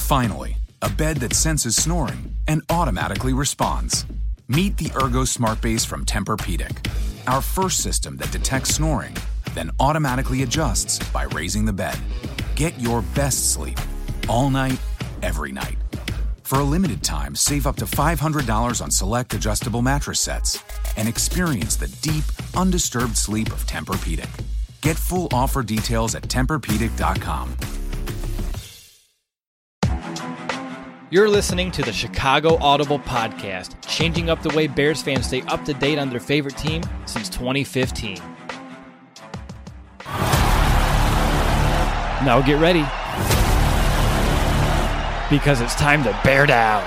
Finally, a bed that senses snoring and automatically responds. Meet the Ergo Smart Base from Tempur-Pedic, our first system that detects snoring, then automatically adjusts by raising the bed. Get your best sleep all night, every night. For a limited time, save up to $500 on select adjustable mattress sets and experience the deep, undisturbed sleep of Tempur-Pedic. Get full offer details at TempurPedic.com. You're listening to the Chicago Audible Podcast, changing up the way Bears fans stay up to date on their favorite team since 2015. Now get ready, because it's time to bear down.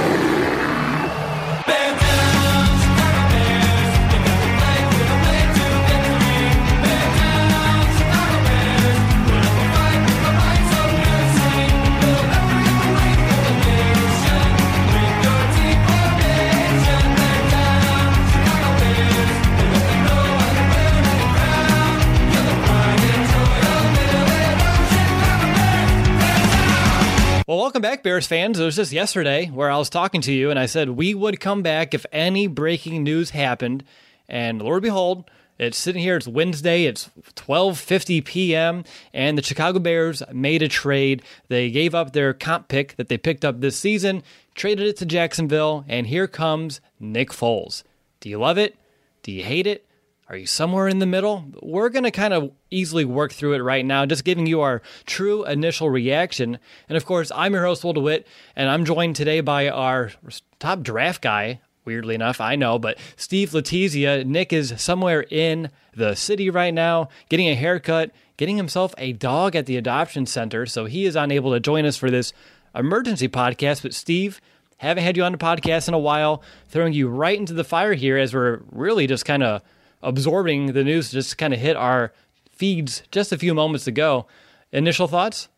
Well, welcome back, Bears fans. It was just yesterday where I was talking to you, and I said we would come back if any breaking news happened. And Lord behold, it's sitting here. It's Wednesday. It's 12:50 p.m., and the Chicago Bears made a trade. They gave up their comp pick that they picked up this season, traded it to Jacksonville, and here comes Nick Foles. Do you love it? Do you hate it? Are you somewhere in the middle? We're going to kind of easily work through it right now, just giving you our true initial reaction. And of course, I'm your host, Will DeWitt, and I'm joined today by our top draft guy, weirdly enough, I know, but Steve Letizia. Nick is somewhere in the city right now, getting a haircut, getting himself a dog at the adoption center, so he is unable to join us for this emergency podcast. But Steve, haven't had you on the podcast in a while, throwing you right into the fire here as we're really just kind of absorbing the news, just kind of hit our feeds just a few moments ago. Initial thoughts?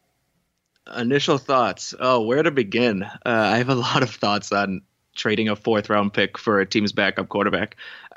Oh, where to begin? I have a lot of thoughts on trading a fourth-round pick for a team's backup quarterback.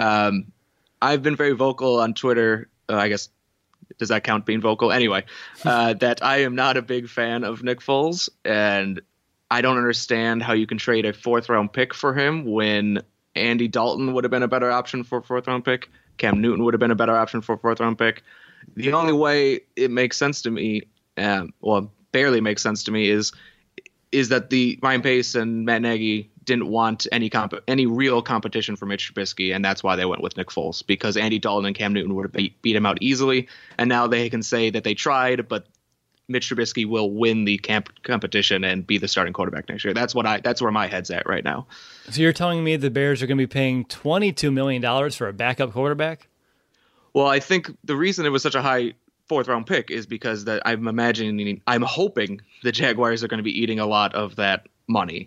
I've been very vocal on Twitter. I guess, does that count being vocal? Anyway, that I am not a big fan of Nick Foles, and I don't understand how you can trade a fourth-round pick for him when Andy Dalton would have been a better option for a fourth-round pick. Cam Newton would have been a better option for a fourth-round pick. The only way it makes sense to me, barely makes sense to me, is that the Ryan Pace and Matt Nagy didn't want any real competition for Mitch Trubisky, and that's why they went with Nick Foles, because Andy Dalton and Cam Newton would have beat him out easily, and now they can say that they tried, but Mitch Trubisky will win the competition and be the starting quarterback next year. That's where my head's at right now. So you're telling me the Bears are going to be paying $22 million for a backup quarterback? Well, I think the reason it was such a high fourth-round pick is because that I'm hoping the Jaguars are going to be eating a lot of that money.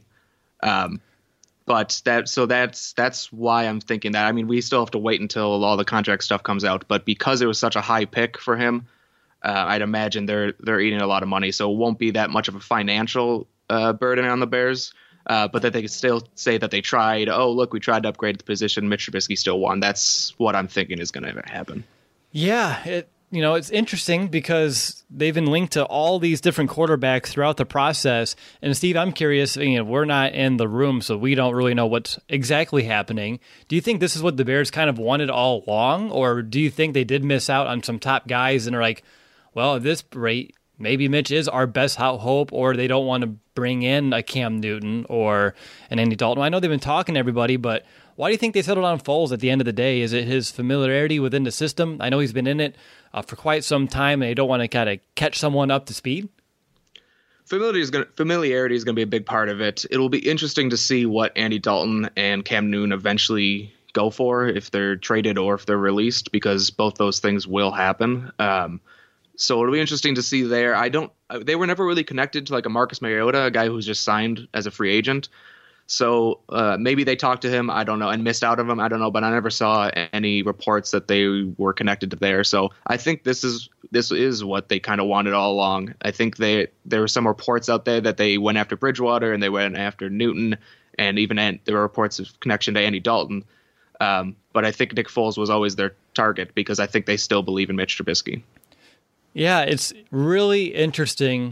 But that's why I'm thinking that. I mean, we still have to wait until all the contract stuff comes out, but because it was such a high pick for him, I'd imagine they're eating a lot of money, so it won't be that much of a financial burden on the Bears. But that they could still say that they tried. Oh, look, we tried to upgrade the position. Mitch Trubisky still won. That's what I'm thinking is going to happen. Yeah, it's interesting because they've been linked to all these different quarterbacks throughout the process. And Steve, I'm curious. We're not in the room, so we don't really know what's exactly happening. Do you think this is what the Bears kind of wanted all along, or do you think they did miss out on some top guys and are like, well, at this rate, maybe Mitch is our best hope, or they don't want to bring in a Cam Newton or an Andy Dalton? I know they've been talking to everybody, but why do you think they settled on Foles at the end of the day? Is it his familiarity within the system? I know he's been in it for quite some time, and they don't want to kind of catch someone up to speed. Familiarity is going to be a big part of it. It'll be interesting to see what Andy Dalton and Cam Newton eventually go for, if they're traded or if they're released, because both those things will happen. So it'll be interesting to see there. They were never really connected to like a Marcus Mariota, a guy who's just signed as a free agent. So maybe they talked to him, I don't know, and missed out on him, I don't know, but I never saw any reports that they were connected to there. So I think this is what they kind of wanted all along. I think there were some reports out there that they went after Bridgewater and they went after Newton, and even there were reports of connection to Andy Dalton. But I think Nick Foles was always their target because I think they still believe in Mitch Trubisky. Yeah, it's really interesting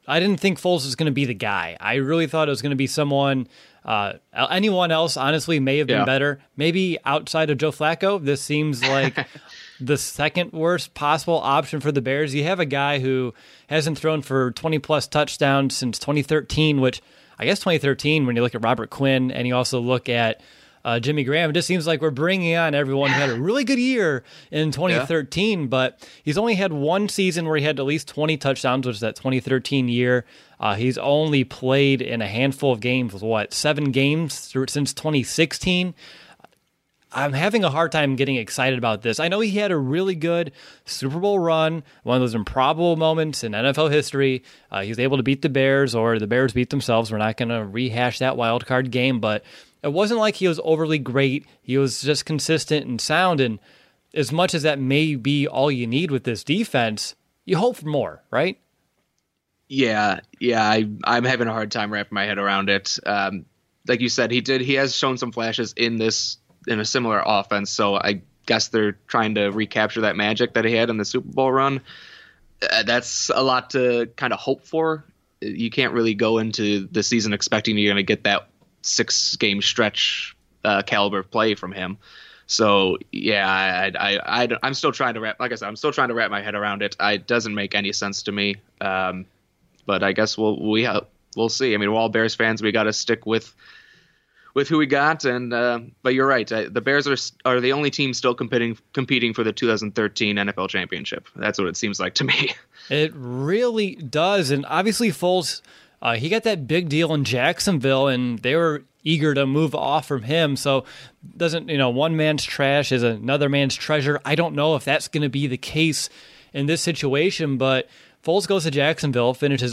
I didn't think Foles was going to be the guy. I really thought it was going to be someone, anyone else, honestly, may have been better. Maybe outside of Joe Flacco, this seems like the second worst possible option for the Bears. You have a guy who hasn't thrown for 20-plus touchdowns since 2013, which I guess 2013, when you look at Robert Quinn and you also look at Jimmy Graham, it just seems like we're bringing on everyone who had a really good year in 2013, but he's only had one season where he had at least 20 touchdowns, which is that 2013 year. He's only played in a handful of games, 7 games since 2016. I'm having a hard time getting excited about this. I know he had a really good Super Bowl run, one of those improbable moments in NFL history. He was able to beat the Bears, or the Bears beat themselves. We're not going to rehash that wild card game, but it wasn't like he was overly great. He was just consistent and sound, and as much as that may be all you need with this defense, you hope for more, right? Yeah, I'm having a hard time wrapping my head around it. Like you said, he has shown some flashes in a similar offense, so I guess they're trying to recapture that magic that he had in the Super Bowl run. That's a lot to kind of hope for. You can't really go into the season expecting you're going to get that 6-game stretch caliber of play from him. So yeah, I'm still trying to wrap my head around it. It doesn't make any sense to me. But I guess we'll see. I mean, we're all Bears fans. We got to stick with who we got. And but you're right. The Bears are the only team still competing for the 2013 NFL championship. That's what it seems like to me. It really does. And obviously Foles, he got that big deal in Jacksonville, and they were eager to move off from him. So one man's trash is another man's treasure. I don't know if that's going to be the case in this situation, but Foles goes to Jacksonville, finishes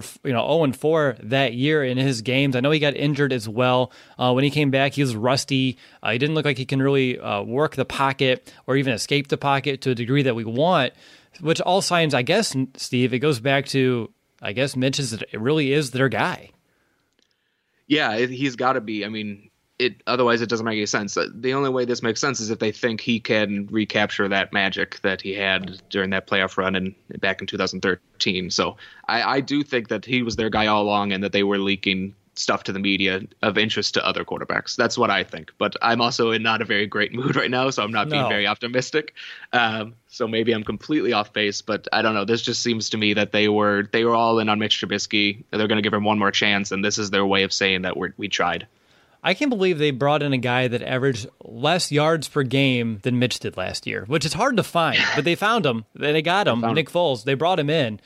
0-4 that year in his games. I know he got injured as well. When he came back, he was rusty. He didn't look like he can really work the pocket or even escape the pocket to a degree that we want, which all signs, I guess, Steve, it goes back to, I guess, Mitch it really is their guy. Yeah, he's got to be. I mean, otherwise it doesn't make any sense. The only way this makes sense is if they think he can recapture that magic that he had during that playoff run back in 2013. So I do think that he was their guy all along, and that they were leaking stuff to the media of interest to other quarterbacks. That's what I think. But I'm also in not a very great mood right now, so I'm not being very optimistic. So maybe I'm completely off base, but I don't know. This just seems to me that they were all in on Mitch Trubisky. They're going to give him one more chance, and this is their way of saying that we tried. I can't believe they brought in a guy that averaged less yards per game than Mitch did last year, which is hard to find, but they found him. They got him, Nick Foles. They brought him in.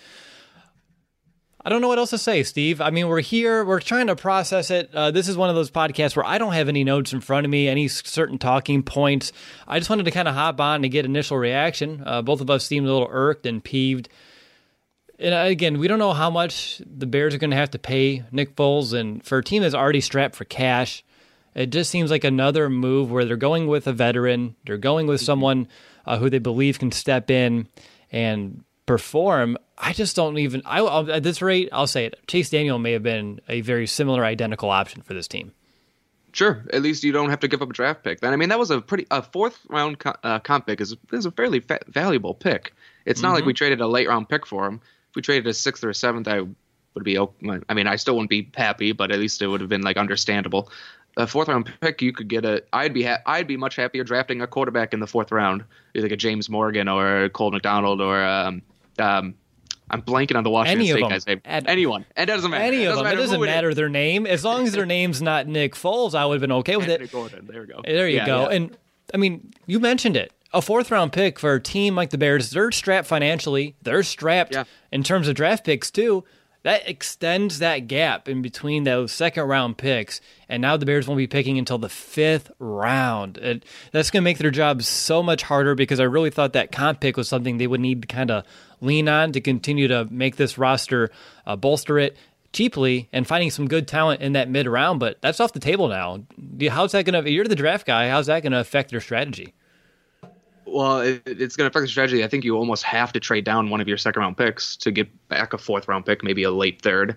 I don't know what else to say, Steve. I mean, we're here. We're trying to process it. This is one of those podcasts where I don't have any notes in front of me, any certain talking points. I just wanted to kind of hop on to get initial reaction. Both of us seemed a little irked and peeved. And again, we don't know how much the Bears are going to have to pay Nick Foles. And for a team that's already strapped for cash, it just seems like another move where they're going with a veteran. They're going with someone who they believe can step in and perform. I just don't even. At this rate, I'll say it. Chase Daniel may have been a very similar, identical option for this team. Sure, at least you don't have to give up a draft pick. Then I mean, that was a fourth round comp pick is a fairly valuable pick. It's not like we traded a late round pick for him. If we traded a 6th or a 7th, I would be. I mean, I still wouldn't be happy, but at least it would have been like understandable. A 4th round pick, you could get I'd be much happier drafting a quarterback in the 4th round, either like a James Morgan or a Cole McDonald or I'm blanking on the Washington State guy's name. Anyone. It doesn't matter. Any of them. It doesn't matter their name. As long as their name's not Nick Foles, I would have been okay with it. Gordon. There we go. There you go. Yeah. And, I mean, you mentioned it. A 4th round pick for a team like the Bears, they're strapped financially. They're strapped in terms of draft picks, too. That extends that gap in between those 2nd round picks, and now the Bears won't be picking until the 5th round. That's going to make their job so much harder, because I really thought that comp pick was something they would need to kind of lean on to continue to make this roster, bolster it cheaply, and finding some good talent in that mid-round, but that's off the table now. How's that going to – you're the draft guy. How's that going to affect their strategy? Well, it's going to affect the strategy. I think you almost have to trade down one of your 2nd round picks to get back a 4th round pick, maybe a late 3rd.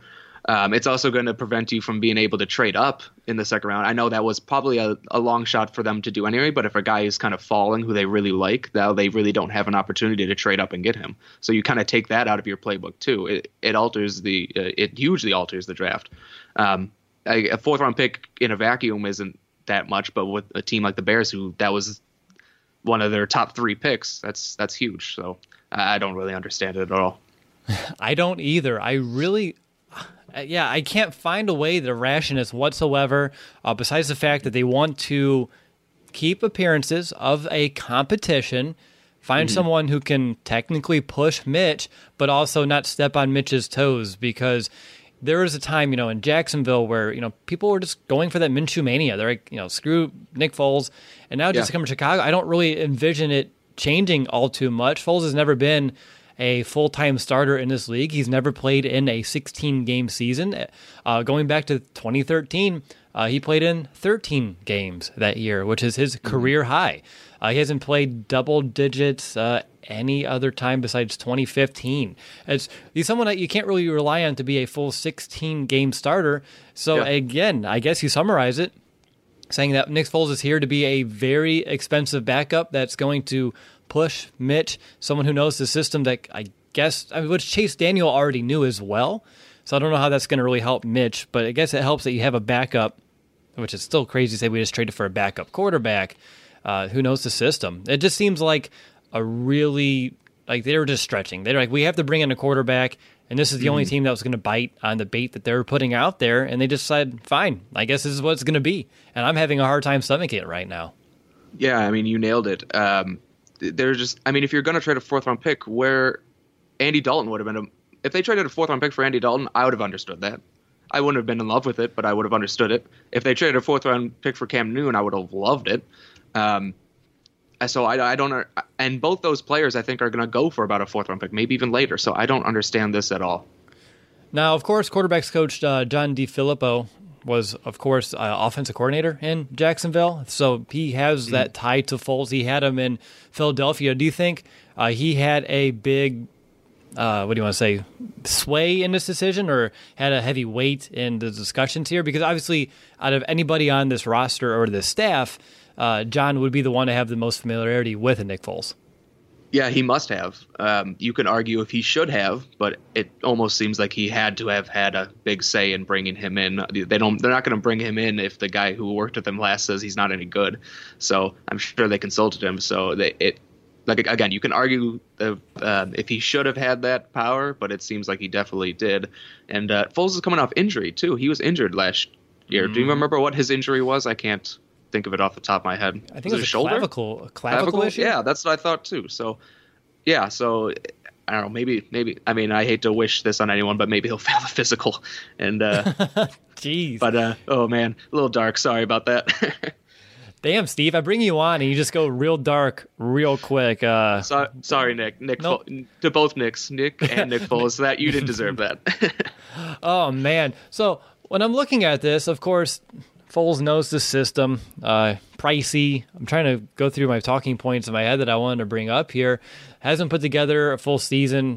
It's also going to prevent you from being able to trade up in the second round. I know that was probably a long shot for them to do anyway, but if a guy is kind of falling who they really like, now they really don't have an opportunity to trade up and get him. So you kind of take that out of your playbook too. It hugely alters the draft. A fourth round pick in a vacuum isn't that much, but with a team like the Bears, who that was one of their top 3 picks, that's huge. So I don't really understand it at all. I don't either. I can't find a way to ration this whatsoever, besides the fact that they want to keep appearances of a competition, find someone who can technically push Mitch, but also not step on Mitch's toes, because there was a time, in Jacksonville where, people were just going for that Minshew mania. They're like, screw Nick Foles. And now just to come to Chicago, I don't really envision it changing all too much. Foles has never been a full-time starter in this league. He's never played in a 16-game season. Going back to 2013, he played in 13 games that year, which is his career high. He hasn't played double digits any other time besides 2015. He's someone that you can't really rely on to be a full 16-game starter. So again, I guess you summarize it saying that Nick Foles is here to be a very expensive backup that's going to push Mitch, someone who knows the system that which Chase Daniel already knew as well. So I don't know how that's going to really help Mitch, but I guess it helps that you have a backup, which is still crazy to say we just traded for a backup quarterback who knows the system. It just seems like a really, they were just stretching. They're like, we have to bring in a quarterback, and this is the only team that was going to bite on the bait that they were putting out there, and they just said, fine, I guess this is what it's going to be. And I'm having a hard time stomaching it right now. Yeah, I mean, you nailed it. If you're going to trade a fourth-round pick, where Andy Dalton would have been if they traded a fourth-round pick for Andy Dalton, I would have understood that. I wouldn't have been in love with it, but I would have understood it. If they traded a fourth-round pick for Cam Newton, I would have loved it. So I don't, and both those players I think are going to go for about a fourth-round pick, maybe even later. So I don't understand this at all. Now, of course, quarterbacks coach John DeFilippo was, of course, offensive coordinator in Jacksonville. So he has that tie to Foles. He had him in Philadelphia. Do you think he had a big, sway in this decision, or had a heavy weight in the discussions here? Because obviously, out of anybody on this roster or this staff, John would be the one to have the most familiarity with Nick Foles. Yeah, he must have. You can argue if he should have, but it almost seems like he had to have had a big say in bringing him in. They're not going to bring him in if the guy who worked with him last says he's not any good. So I'm sure they consulted him. So again, you can argue if he should have had that power, but it seems like he definitely did. And Foles is coming off injury too. He was injured last year. Do you remember what his injury was? I can't think of it off the top of my head. I think it was a shoulder? Clavicle issue? Yeah, that's what I thought too. So, yeah, I don't know, maybe, I mean, I hate to wish this on anyone, but maybe he'll fail the physical. And, jeez. But, oh man, a little dark. Sorry about that. Damn, Steve, I bring you on and you just go real dark real quick. Sorry, Nick. Nope. To both Nicks, Nick and Nick Foles, that you didn't deserve that. Oh, man. So when I'm looking at this, of course, Foles knows the system. Pricey. I'm trying to go through my talking points in my head that I wanted to bring up here. Hasn't put together a full season.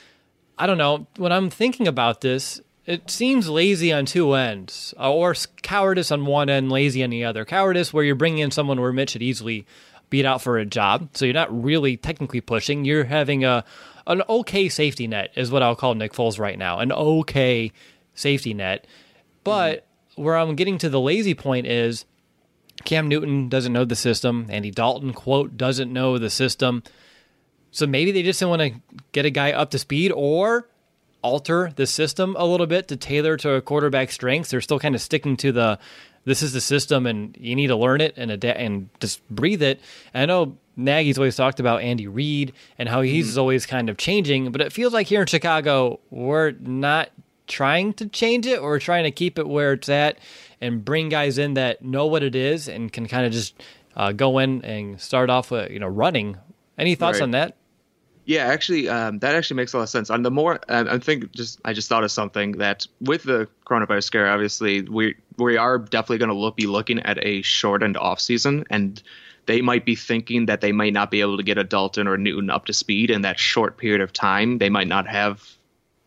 I don't know. When I'm thinking about this, it seems lazy on two ends, or cowardice on one end, lazy on the other. Cowardice where you're bringing in someone where Mitch should easily beat out for a job, so you're not really technically pushing. You're having an okay safety net is what I'll call Nick Foles right now, an okay safety net. But where I'm getting to the lazy point is Cam Newton doesn't know the system. Andy Dalton, quote, doesn't know the system. So maybe they just want to get a guy up to speed or alter the system a little bit to tailor to a quarterback's strengths. They're still kind of sticking to this is the system and you need to learn it and adapt and just breathe it. And I know Nagy's always talked about Andy Reid and how he's always kind of changing, but it feels like here in Chicago, we're not trying to change it or trying to keep it where it's at and bring guys in that know what it is and can kind of just go in and start off running. Any thoughts on that? Yeah, actually, that actually makes a lot of sense. On the more, I just thought of something that with the coronavirus scare, obviously we are definitely going to be looking at a shortened off season, and they might be thinking that they might not be able to get a Dalton or Newton up to speed in that short period of time. They might not have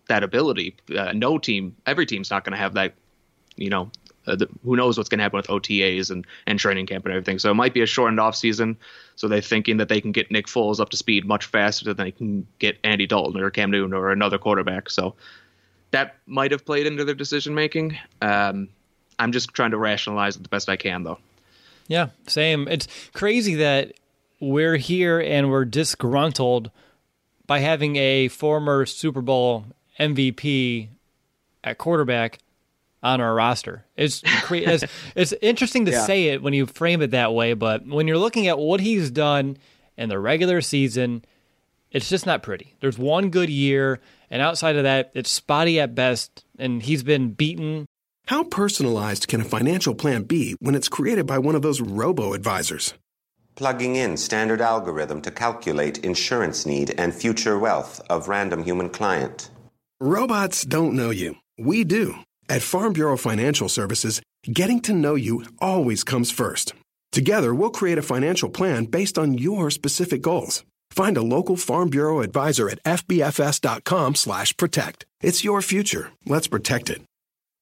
that ability. Every team's not going to have that. Who knows what's going to happen with OTAs and training camp and everything. So it might be a shortened off season. So they're thinking that they can get Nick Foles up to speed much faster than they can get Andy Dalton or Cam Newton or another quarterback. So that might have played into their decision making. I'm just trying to rationalize it the best I can, though. Yeah, same. It's crazy that we're here and we're disgruntled by having a former Super Bowl MVP at quarterback on our roster. It's interesting to say it when you frame it that way, but when you're looking at what he's done in the regular season, it's just not pretty. There's one good year, and outside of that, it's spotty at best, and he's been beaten. How personalized can a financial plan be when it's created by one of those robo-advisors? Plugging in standard algorithm to calculate insurance need and future wealth of random human client. Robots don't know you. We do. At Farm Bureau Financial Services, getting to know you always comes first. Together, we'll create a financial plan based on your specific goals. Find a local Farm Bureau advisor at fbfs.com/protect. It's your future. Let's protect it.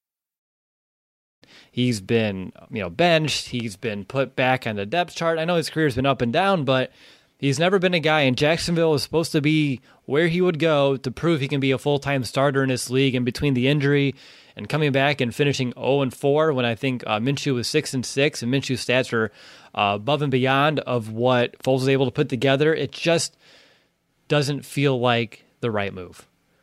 He's been, benched. He's been put back on the depth chart. I know his career's been up and down, but he's never been a guy, and Jacksonville is supposed to be where he would go to prove he can be a full-time starter in this league. And between the injury and coming back and finishing 0-4, when I think Minshew was 6-6, and Minshew's stats are above and beyond of what Foles was able to put together, it just doesn't feel like the right move.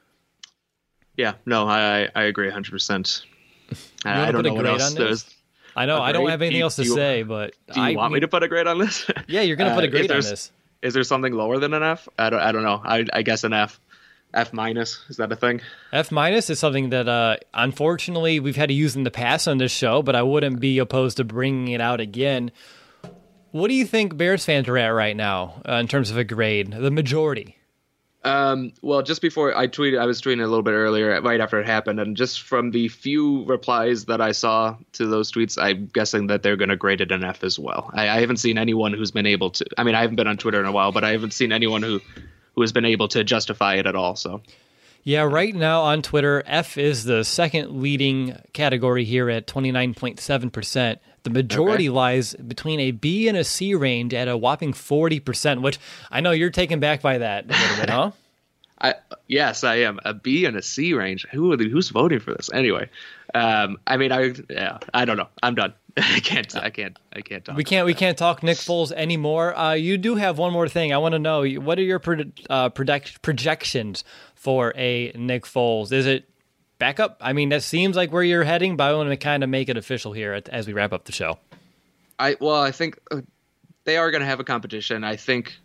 Yeah, no, I agree 100%. I don't know what else there's. I know I don't have anything else to say, but do you want me to put a grade on this? Yeah, you're going to put a grade on this. Is there something lower than an F? I don't know. I guess an F. F minus, is that a thing? F minus is something that unfortunately we've had to use in the past on this show, but I wouldn't be opposed to bringing it out again. What do you think Bears fans are at right now in terms of a grade? The majority. Well, just before I was tweeting a little bit earlier, right after it happened, and just from the few replies that I saw to those tweets, I'm guessing that they're going to grade it an F as well. I haven't seen anyone who's been able to. I mean, I haven't been on Twitter in a while, but I haven't seen anyone who has been able to justify it at all. So, yeah, right now on Twitter, F is the second leading category here at 29.7%. The majority lies between a B and a C range at a whopping 40%, which I know you're taken back by that a little bit, huh? Yes, I am. A B and a C range. Who's voting for this anyway? I don't know. I'm done. I can't talk. We can't talk Nick Foles anymore. You do have one more thing. I want to know, what are your projections for a Nick Foles? Is it backup? I mean, that seems like where you're heading, but I want to kind of make it official here as we wrap up the show. I think they are going to have a competition. I think.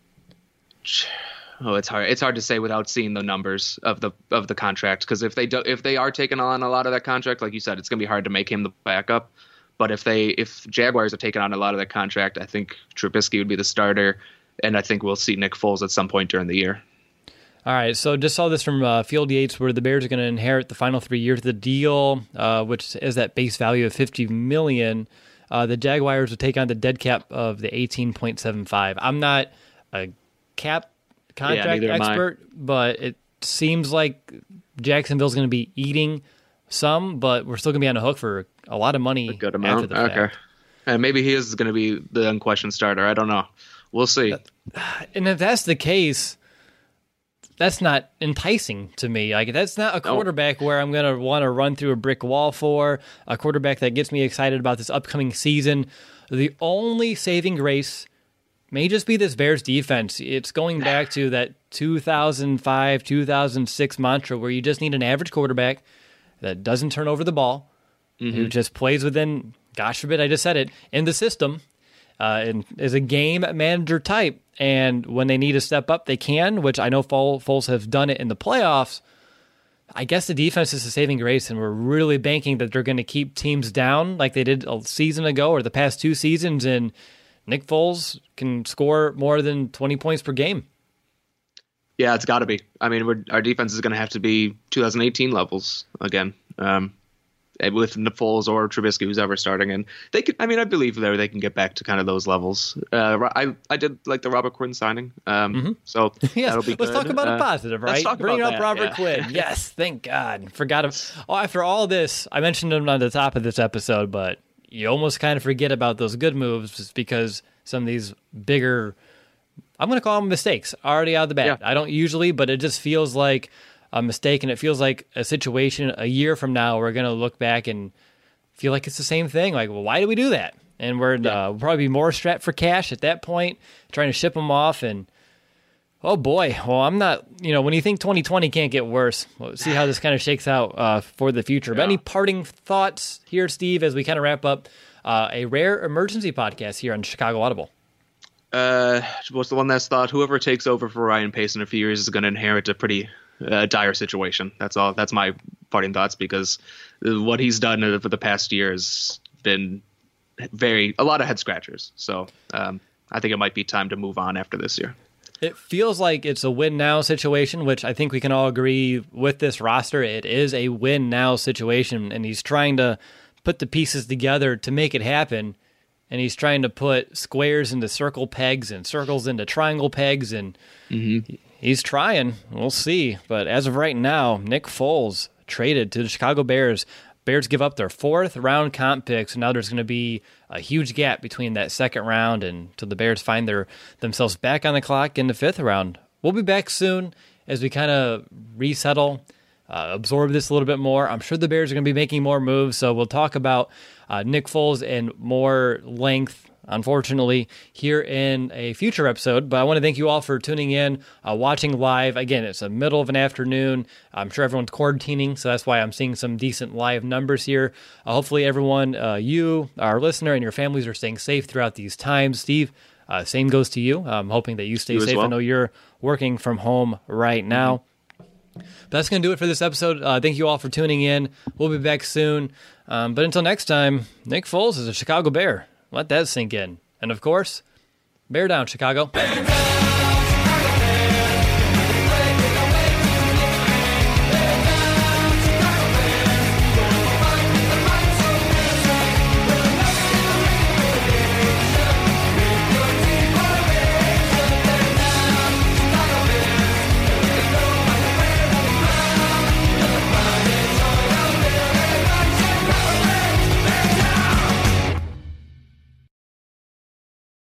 It's hard. It's hard to say without seeing the numbers of the contract, because if they are taking on a lot of that contract, like you said, it's going to be hard to make him the backup. But if Jaguars are taking on a lot of that contract, I think Trubisky would be the starter, and I think we'll see Nick Foles at some point during the year. All right, so just saw this from Field Yates, where the Bears are going to inherit the final 3 years of the deal, which is that base value of $50 million. The Jaguars will take on the dead cap of the 18.75. I'm not a cap contract expert, but it seems like Jacksonville's going to be eating some, but we're still going to be on the hook for a lot of money. A good amount. After the fact. And maybe he is going to be the unquestioned starter. I don't know. We'll see. And if that's the case, that's not enticing to me. Like, that's not a quarterback where I'm going to want to run through a brick wall for, a quarterback that gets me excited about this upcoming season. The only saving grace may just be this Bears defense. It's going back to that 2005, 2006 mantra where you just need an average quarterback that doesn't turn over the ball, who just plays within, gosh forbid, I just said it, in the system, and is a game manager type. And when they need to step up, they can, which I know Foles have done it in the playoffs. I guess the defense is a saving grace, and we're really banking that they're going to keep teams down like they did a season ago or the past 2 seasons, and Nick Foles can score more than 20 points per game. Yeah, it's got to be. I mean, our defense is going to have to be 2018 levels again. with Foles or Trubisky, who's ever starting. And they could, I mean, I believe they can get back to kind of those levels. I did like the Robert Quinn signing. So yes, that'll be good. Let's talk about a positive, right? Bring up Robert Quinn. Yes, thank God. Forgot him. Oh, after all this, I mentioned him on the top of this episode, but you almost kind of forget about those good moves just because some of these bigger, I'm going to call them mistakes, already out of the bat. Yeah. I don't usually, but it just feels like a mistake, and it feels like a situation a year from now we're going to look back and feel like it's the same thing. Like, well, why did we do that? And we'll probably be more strapped for cash at that point, trying to ship them off. And, oh, boy. Well, I'm not, when you think 2020 can't get worse, we'll see how this kind of shakes out for the future. Yeah. But any parting thoughts here, Steve, as we kind of wrap up a rare emergency podcast here on Chicago Audible? What's the one that's thought whoever takes over for Ryan Pace in a few years is going to inherit a pretty dire situation. That's all. That's my parting thoughts, because what he's done for the past year has been a lot of head scratchers. So I think it might be time to move on after this year. It feels like it's a win now situation, which I think we can all agree with this roster. It is a win now situation, and he's trying to put the pieces together to make it happen. And he's trying to put squares into circle pegs and circles into triangle pegs, and he's trying. We'll see. But as of right now, Nick Foles traded to the Chicago Bears. Bears give up their 4th round comp pick, so now there's going to be a huge gap between that 2nd round and till the Bears find themselves back on the clock in the 5th round. We'll be back soon as we kind of resettle, absorb this a little bit more. I'm sure the Bears are going to be making more moves, so we'll talk about Nick Foles in more length, unfortunately, here in a future episode. But I want to thank you all for tuning in, watching live. Again, it's the middle of an afternoon. I'm sure everyone's quarantining, so that's why I'm seeing some decent live numbers here. Hopefully everyone, you, our listener, and your families are staying safe throughout these times. Steve, same goes to you. I'm hoping that you stay safe. Well. I know you're working from home right now. But that's going to do it for this episode. Thank you all for tuning in. We'll be back soon. But until next time, Nick Foles is a Chicago Bear. Let that sink in. And of course, bear down, Chicago. Bear down!